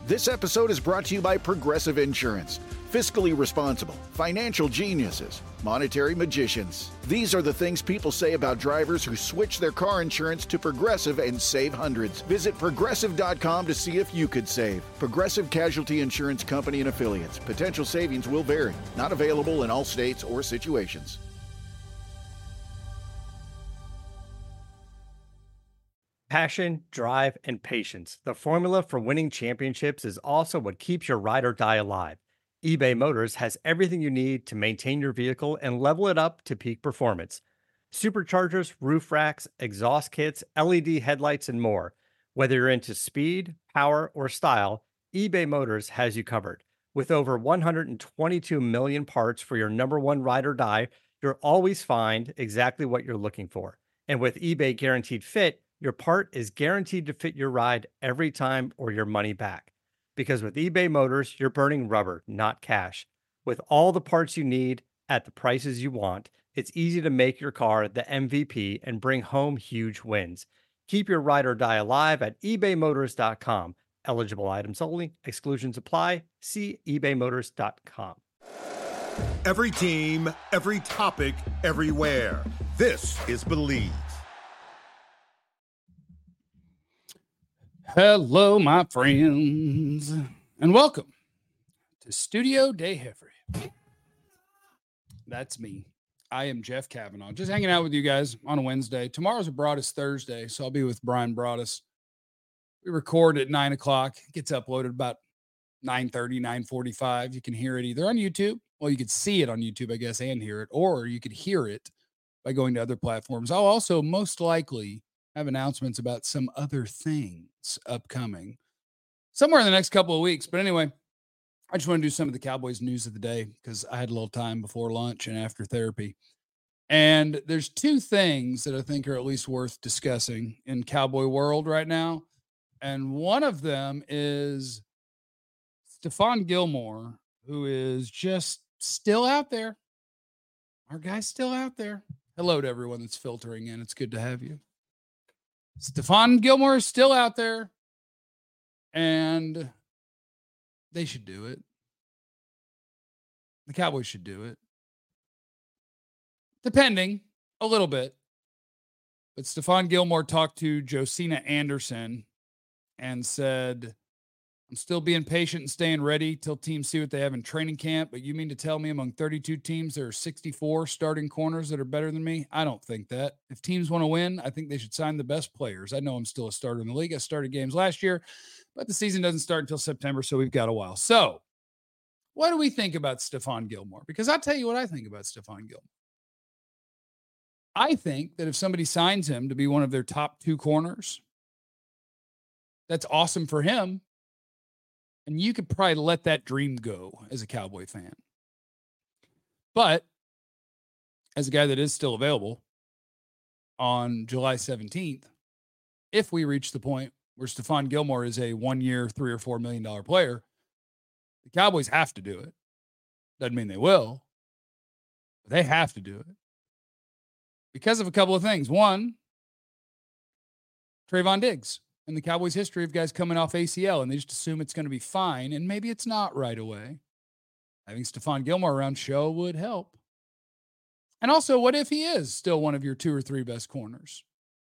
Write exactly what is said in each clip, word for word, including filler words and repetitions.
This episode is brought to you by Progressive Insurance. Fiscally responsible, financial geniuses, monetary magicians. These are the things people say about drivers who switch their car insurance to Progressive and save hundreds. Visit progressive dot com to see if you could save. Progressive Casualty Insurance Company and Affiliates. Potential savings will vary. Not available in all states or situations. Passion, drive, and patience. The formula for winning championships is also what keeps your ride or die alive. eBay Motors has everything you need to maintain your vehicle and level it up to peak performance. Superchargers, roof racks, exhaust kits, L E D headlights, and more. Whether you're into speed, power, or style, eBay Motors has you covered. With over one hundred twenty-two million parts for your number one ride or die, you'll always find exactly what you're looking for. And with eBay Guaranteed Fit, your part is guaranteed to fit your ride every time or your money back. Because with eBay Motors, you're burning rubber, not cash. With all the parts you need at the prices you want, it's easy to make your car the M V P and bring home huge wins. Keep your ride or die alive at ebay motors dot com. Eligible items only. Exclusions apply. See ebay motors dot com. Every team, every topic, everywhere. This is Believe. Hello, my friends, and welcome to Studio Day Heffrey. That's me. I am Jeff Kavanaugh, just hanging out with you guys on a Wednesday. Tomorrow's a Broadus Thursday, so I'll be with Brian Broadus. We record at nine o'clock. It gets uploaded about nine thirty, nine forty-five. You can hear it either on YouTube. Well, you could see it on YouTube, I guess, and hear it, or you could hear it by going to other platforms. I'll also most likely have announcements about some other things upcoming somewhere in the next couple of weeks. But anyway, I just want to do some of the Cowboys news of the day because I had a little time before lunch and after therapy. And there's two things that I think are at least worth discussing in Cowboy world right now. And one of them is Stephon Gilmore, who is just still out there. Our guy's still out there. Hello to everyone that's filtering in. It's good to have you. Stephon Gilmore is still out there, and they should do it. The Cowboys should do it. Depending a little bit. But Stephon Gilmore talked to Josina Anderson and said, I'm still being patient and staying ready till teams see what they have in training camp. But you mean to tell me among thirty-two teams, there are sixty-four starting corners that are better than me? I don't think that. If teams want to win, I think they should sign the best players. I know I'm still a starter in the league. I started games last year, but the season doesn't start until September, so we've got a while. So what do we think about Stephon Gilmore? Because I'll tell you what I think about Stephon Gilmore. I think that if somebody signs him to be one of their top two corners, that's awesome for him. And you could probably let that dream go as a Cowboy fan. But as a guy that is still available on July seventeenth, if we reach the point where Stephon Gilmore is a one-year, three or four million dollar player, the Cowboys have to do it. Doesn't mean they will, but they have to do it because of a couple of things. One, Trayvon Diggs. In the Cowboys' history of guys coming off A C L, and they just assume it's going to be fine, and maybe it's not right away. Having Stephon Gilmore around show would help. And also, what if he is still one of your two or three best corners?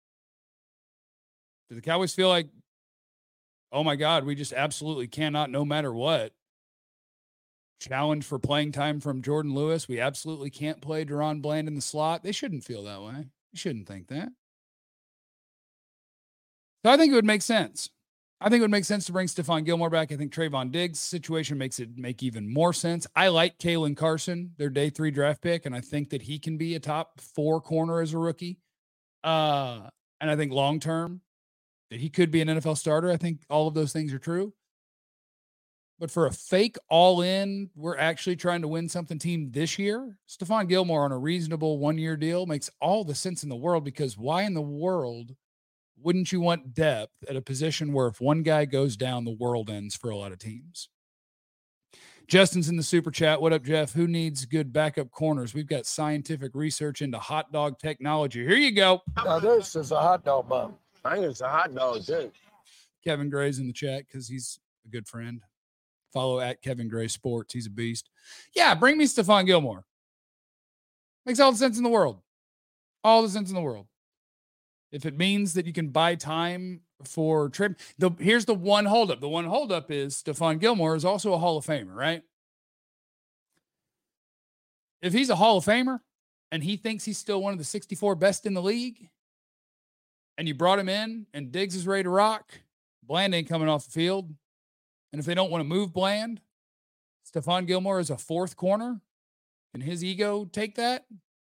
Do the Cowboys feel like, oh my God, we just absolutely cannot, no matter what, challenge for playing time from Jordan Lewis? We absolutely can't play Deron Bland in the slot. They shouldn't feel that way. You shouldn't think that. So I think it would make sense. I think it would make sense to bring Stephon Gilmore back. I think Trayvon Diggs' situation makes it make even more sense. I like Kalen Carson, their day three draft pick, and I think that he can be a top four corner as a rookie. Uh, and I think long-term that he could be an N F L starter. I think all of those things are true. But for a fake all-in, we're actually trying to win something team this year, Stephon Gilmore on a reasonable one-year deal makes all the sense in the world, because why in the world wouldn't you want depth at a position where if one guy goes down, the world ends for a lot of teams? Justin's in the super chat. What up, Jeff? Who needs good backup corners? We've got scientific research into hot dog technology. Here you go. Now this is a hot dog bun. I think it's a hot dog, too. Kevin Gray's in the chat because he's a good friend. Follow at Kevin Gray Sports. He's a beast. Yeah, bring me Stephon Gilmore. Makes all the sense in the world. All the sense in the world. If it means that you can buy time for trip, the here's the one holdup. The one holdup is Stephon Gilmore is also a Hall of Famer, right? If he's a Hall of Famer and he thinks he's still one of the sixty-four best in the league, and you brought him in and Diggs is ready to rock, Bland ain't coming off the field. And if they don't want to move Bland, Stephon Gilmore is a fourth corner. Can his ego take that?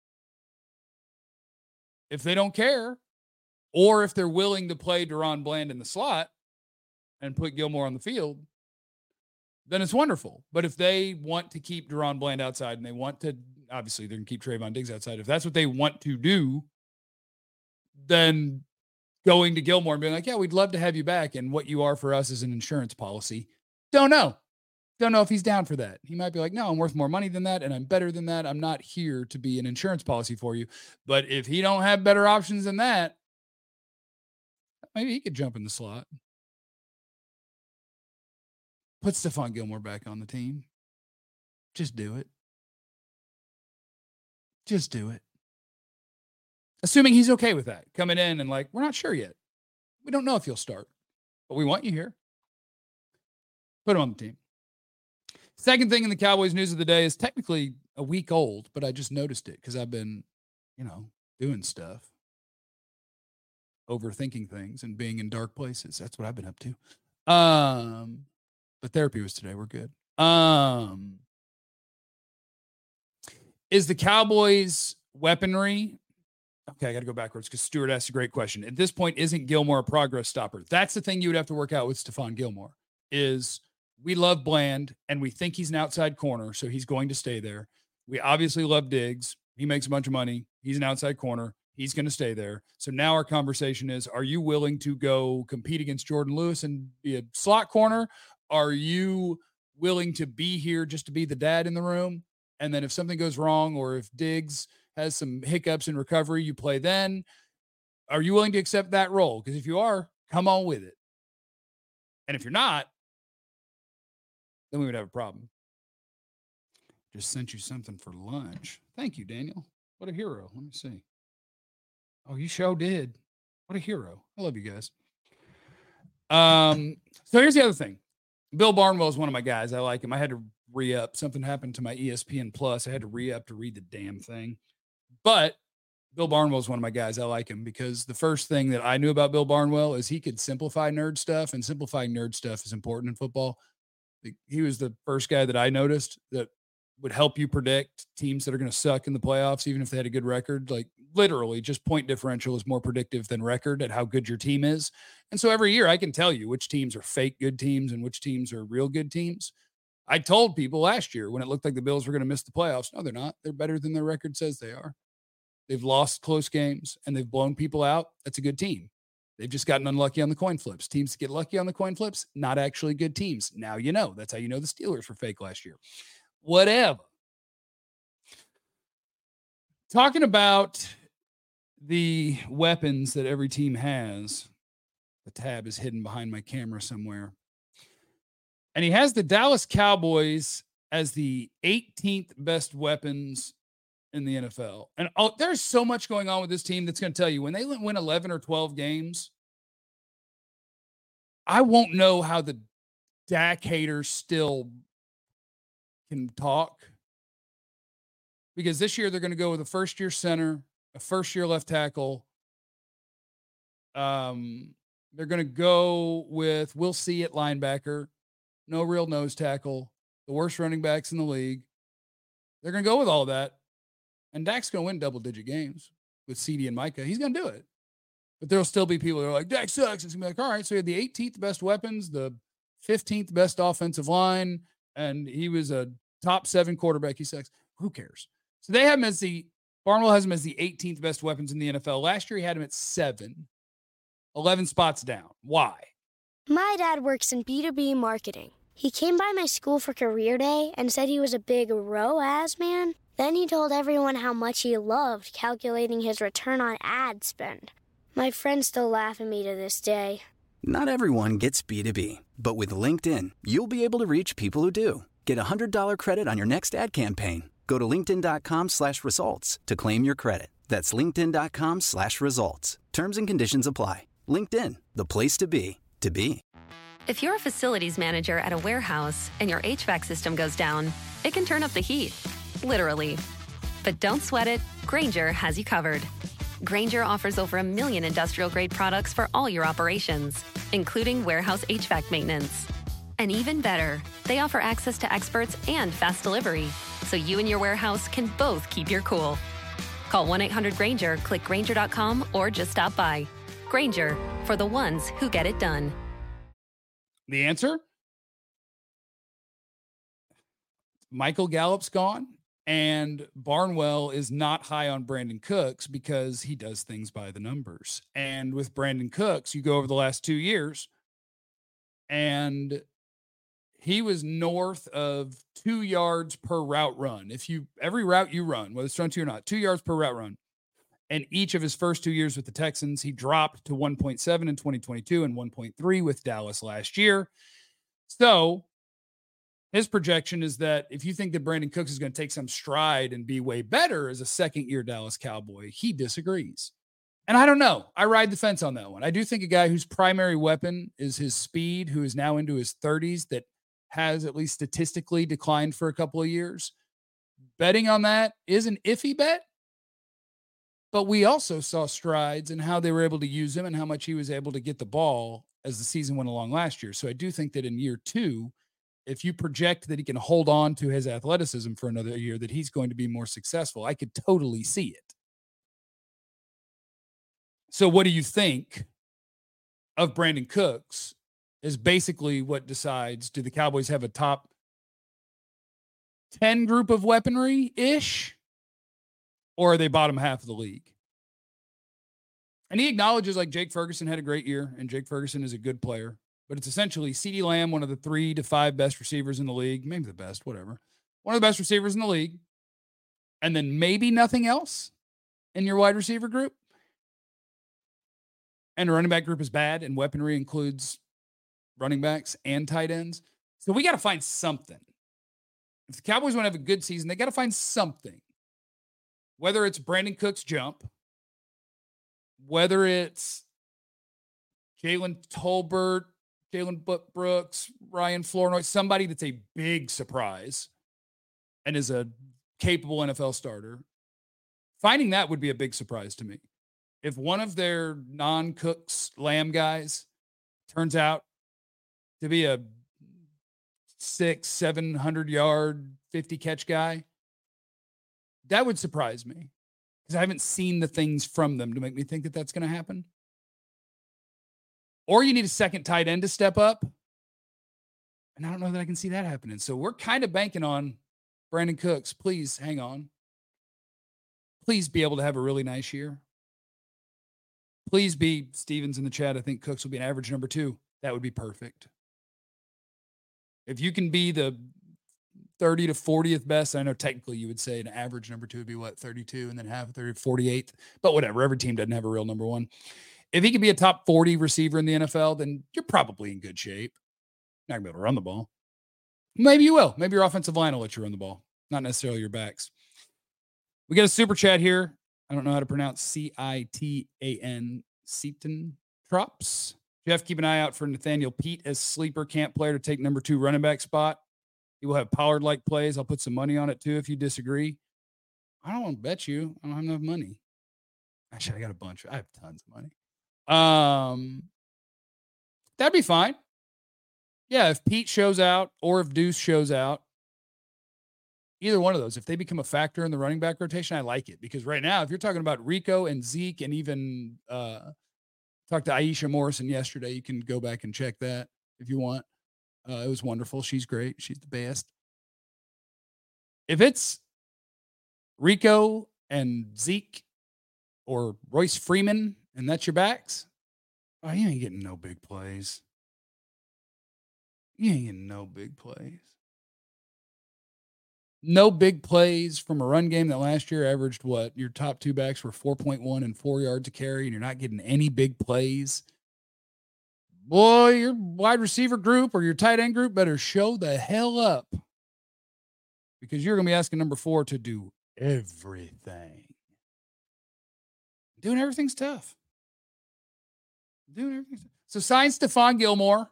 If they don't care, or if they're willing to play Deron Bland in the slot and put Gilmore on the field, then it's wonderful. But if they want to keep Deron Bland outside and they want to, obviously they're going to keep Trayvon Diggs outside. If that's what they want to do, then going to Gilmore and being like, yeah, we'd love to have you back. And what you are for us is an insurance policy. Don't know. Don't know if he's down for that. He might be like, no, I'm worth more money than that. And I'm better than that. I'm not here to be an insurance policy for you. But if he don't have better options than that, maybe he could jump in the slot. Put Stephon Gilmore back on the team. Just do it. Just do it. Assuming he's okay with that. Coming in and like, we're not sure yet. We don't know if you'll start, but we want you here. Put him on the team. Second thing in the Cowboys news of the day is technically a week old, but I just noticed it because I've been, you know, doing stuff, overthinking things and being in dark places. That's what I've been up to. Um, but therapy was today. We're good. Um, is the Cowboys weaponry? Okay, I got to go backwards because Stuart asked a great question. At this point, isn't Gilmore a progress stopper? That's the thing you would have to work out with Stephon Gilmore is we love Bland and we think he's an outside corner, so he's going to stay there. We obviously love Diggs. He makes a bunch of money. He's an outside corner. He's going to stay there. So now our conversation is, are you willing to go compete against Jordan Lewis and be a slot corner? Are you willing to be here just to be the dad in the room? And then if something goes wrong or if Diggs has some hiccups in recovery, you play then. Are you willing to accept that role? Because if you are, come on with it. And if you're not, then we would have a problem. Just sent you something for lunch. Thank you, Daniel. What a hero. Let me see. Oh, you sure did. What a hero. I love you guys. Um, so here's the other thing. Bill Barnwell is one of my guys. I like him. I had to re-up. Something happened to my E S P N Plus. I had to re-up to read the damn thing. But Bill Barnwell is one of my guys. I like him because the first thing that I knew about Bill Barnwell is he could simplify nerd stuff, and simplifying nerd stuff is important in football. He was the first guy that I noticed that would help you predict teams that are going to suck in the playoffs, even if they had a good record. Like literally just point differential is more predictive than record at how good your team is. And so every year I can tell you which teams are fake good teams and which teams are real good teams. I told people last year when it looked like the Bills were going to miss the playoffs. No, they're not. They're better than their record says they are. They've lost close games and they've blown people out. That's a good team. They've just gotten unlucky on the coin flips. Teams that get lucky on the coin flips, not actually good teams. Now you know. That's how you know the Steelers were fake last year. Whatever. Talking about the weapons that every team has. The tab is hidden behind my camera somewhere. And he has the Dallas Cowboys as the eighteenth best weapons in the N F L. And oh, there's so much going on with this team that's going to tell you when they win eleven or twelve games, I won't know how the Dak haters still can talk. Because this year they're going to go with a first-year center, a first-year left tackle. Um, they're going to go with, we'll see at linebacker, no real nose tackle, the worst running backs in the league. They're going to go with all of that. And Dak's going to win double-digit games with C D and Micah. He's going to do it. But there'll still be people that are like, Dak sucks. It's going to be like, all right, so he had the eighteenth best weapons, the fifteenth best offensive line, and he was a top seven quarterback. He sucks. Who cares? So they have him as the, Barnwell has him as the eighteenth best weapons in the N F L. Last year he had him at seven, eleven spots down. Why? My dad works in B two B marketing. He came by my school for career day and said he was a big R O A S man. Then he told everyone how much he loved calculating his return on ad spend. My friends still laugh at me to this day. Not everyone gets B two B, but with LinkedIn, you'll be able to reach people who do. Get a one hundred dollars credit on your next ad campaign. Go to linkedin.com slash results to claim your credit. That's linkedin.com slash results. Terms and conditions apply. LinkedIn, the place to be, to be. If you're a facilities manager at a warehouse and your H V A C system goes down, it can turn up the heat, literally. But don't sweat it, Grainger has you covered. Grainger offers over a million industrial-grade products for all your operations, including warehouse H V A C maintenance. And even better, they offer access to experts and fast delivery, so you and your warehouse can both keep your cool. Call one eight hundred Grainger, click Grainger dot com, or just stop by. Grainger, for the ones who get it done. The answer? Michael Gallup's gone, and Barnwell is not high on Brandon Cooks because he does things by the numbers. And with Brandon Cooks, you go over the last two years, and he was north of two yards per route run. If you, every route you run, whether it's run two or not, two yards per route run. And each of his first two years with the Texans, he dropped to one point seven in twenty twenty-two and one point three with Dallas last year. So his projection is that if you think that Brandon Cooks is going to take some stride and be way better as a second-year Dallas Cowboy, he disagrees. And I don't know. I ride the fence on that one. I do think a guy whose primary weapon is his speed, who is now into his thirties, that has at least statistically declined for a couple of years. Betting on that is an iffy bet. But we also saw strides in how they were able to use him and how much he was able to get the ball as the season went along last year. So I do think that in year two, if you project that he can hold on to his athleticism for another year, that he's going to be more successful. I could totally see it. So what do you think of Brandon Cooks is basically what decides, do the Cowboys have a top ten group of weaponry-ish? Or are they bottom half of the league? And he acknowledges like Jake Ferguson had a great year, and Jake Ferguson is a good player. But it's essentially CeeDee Lamb, one of the three to five best receivers in the league, maybe the best, whatever. One of the best receivers in the league. And then maybe nothing else in your wide receiver group. And the running back group is bad, and weaponry includes running backs and tight ends. So we got to find something. If the Cowboys want to have a good season, they got to find something. Whether it's Brandon Cooks' jump, whether it's Jalen Tolbert, Jalen Brooks, Ryan Flournoy, somebody that's a big surprise and is a capable N F L starter, finding that would be a big surprise to me. If one of their non-Cooks Lamb guys turns out to be a six, seven hundred yard, fifty catch guy, that would surprise me because I haven't seen the things from them to make me think that that's going to happen. Or you need a second tight end to step up. And I don't know that I can see that happening. So we're kind of banking on Brandon Cooks. Please hang on. Please be able to have a really nice year. Please be Stevens in the chat. I think Cooks will be an average number two. That would be perfect. If you can be the thirty to fortieth best. I know technically you would say an average number two would be what, thirty-two, and then half a thirty, forty-eighth, but whatever. Every team doesn't have a real number one. If he can be a top forty receiver in the N F L, then you're probably in good shape. You're not gonna be able to run the ball. Maybe you will. Maybe your offensive line will let you run the ball, not necessarily your backs. We got a super chat here. I don't know how to pronounce C I T A N, Seaton Trops. Jeff, keep an eye out for Nathaniel Pete as sleeper camp player to take number two running back spot. He will have Pollard-like plays. I'll put some money on it, too, if you disagree. I don't want to bet you. I don't have enough money. Actually, I got a bunch. I have tons of money. Um, that'd be fine. Yeah, if Pete shows out or if Deuce shows out, either one of those, if they become a factor in the running back rotation, I like it. Because right now, if you're talking about Rico and Zeke and even uh, talked to Aisha Morrison yesterday, you can go back and check that if you want. Uh, it was wonderful. She's great. She's the best. If it's Rico and Zeke or Royce Freeman and that's your backs, oh, you ain't getting no big plays. You ain't getting no big plays. No big plays from a run game that last year averaged what? Your top two backs were four point one and four yards a carry, and you're not getting any big plays. boy, your wide receiver group or your tight end group better show the hell up, because you're going to be asking number four to do everything. Doing everything's tough. Doing everything. So sign Stephon Gilmore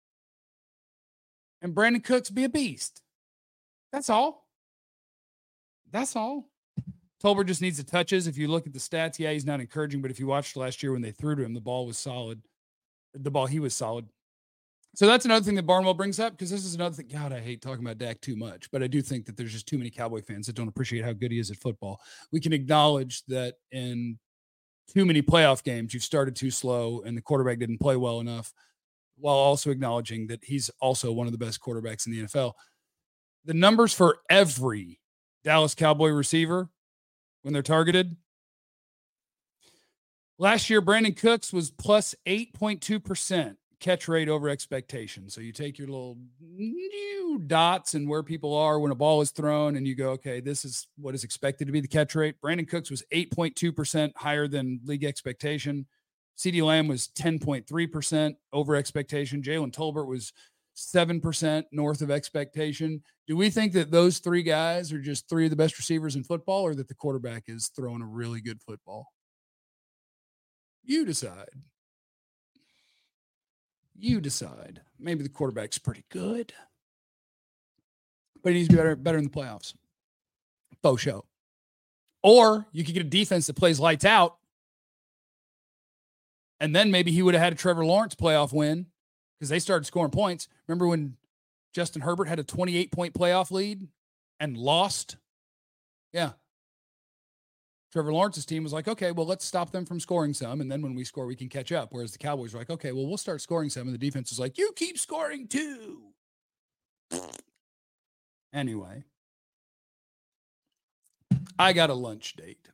and Brandon Cooks be a beast. That's all. That's all. Tolbert just needs the touches. If you look at the stats, yeah, he's not encouraging, but if you watched last year when they threw to him, the ball was solid. The ball, he was solid. So that's another thing that Barnwell brings up, because this is another thing. God, I hate talking about Dak too much, but I do think that there's just too many Cowboy fans that don't appreciate how good he is at football. We can acknowledge that in too many playoff games, you've started too slow and the quarterback didn't play well enough, while also acknowledging that he's also one of the best quarterbacks in the N F L. The numbers for every Dallas Cowboy receiver when they're targeted. Last year, Brandon Cooks was plus eight point two percent catch rate over expectation. So you take your little new dots and where people are when a ball is thrown, and you go, okay, this is what is expected to be the catch rate. Brandon Cooks was eight point two percent higher than league expectation. CeeDee Lamb was ten point three percent over expectation. Jalen Tolbert was seven percent north of expectation. Do we think that those three guys are just three of the best receivers in football, or that the quarterback is throwing a really good football? You decide. You decide. Maybe the quarterback's pretty good, but he needs to be better, better in the playoffs. Faux show. Or you could get a defense that plays lights out, and then maybe he would have had a Trevor Lawrence playoff win, because they started scoring points. Remember when Justin Herbert had a twenty-eight point playoff lead and lost? Yeah. Trevor Lawrence's team was like, okay, well, let's stop them from scoring some, and then when we score, we can catch up. Whereas the Cowboys were like, okay, well, we'll start scoring some, and the defense is like, you keep scoring too. Anyway, I got a lunch date.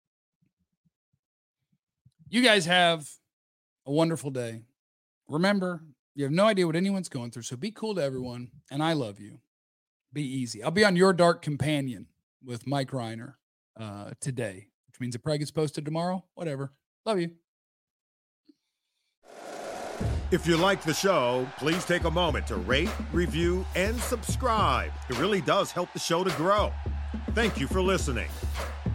You guys have a wonderful day. Remember, you have no idea what anyone's going through, so be cool to everyone, and I love you. Be easy. I'll be on Your Dark Companion with Mike Reiner uh, today, which means it probably gets posted tomorrow. Whatever. Love you. If you like the show, please take a moment to rate, review, and subscribe. It really does help the show to grow. Thank you for listening.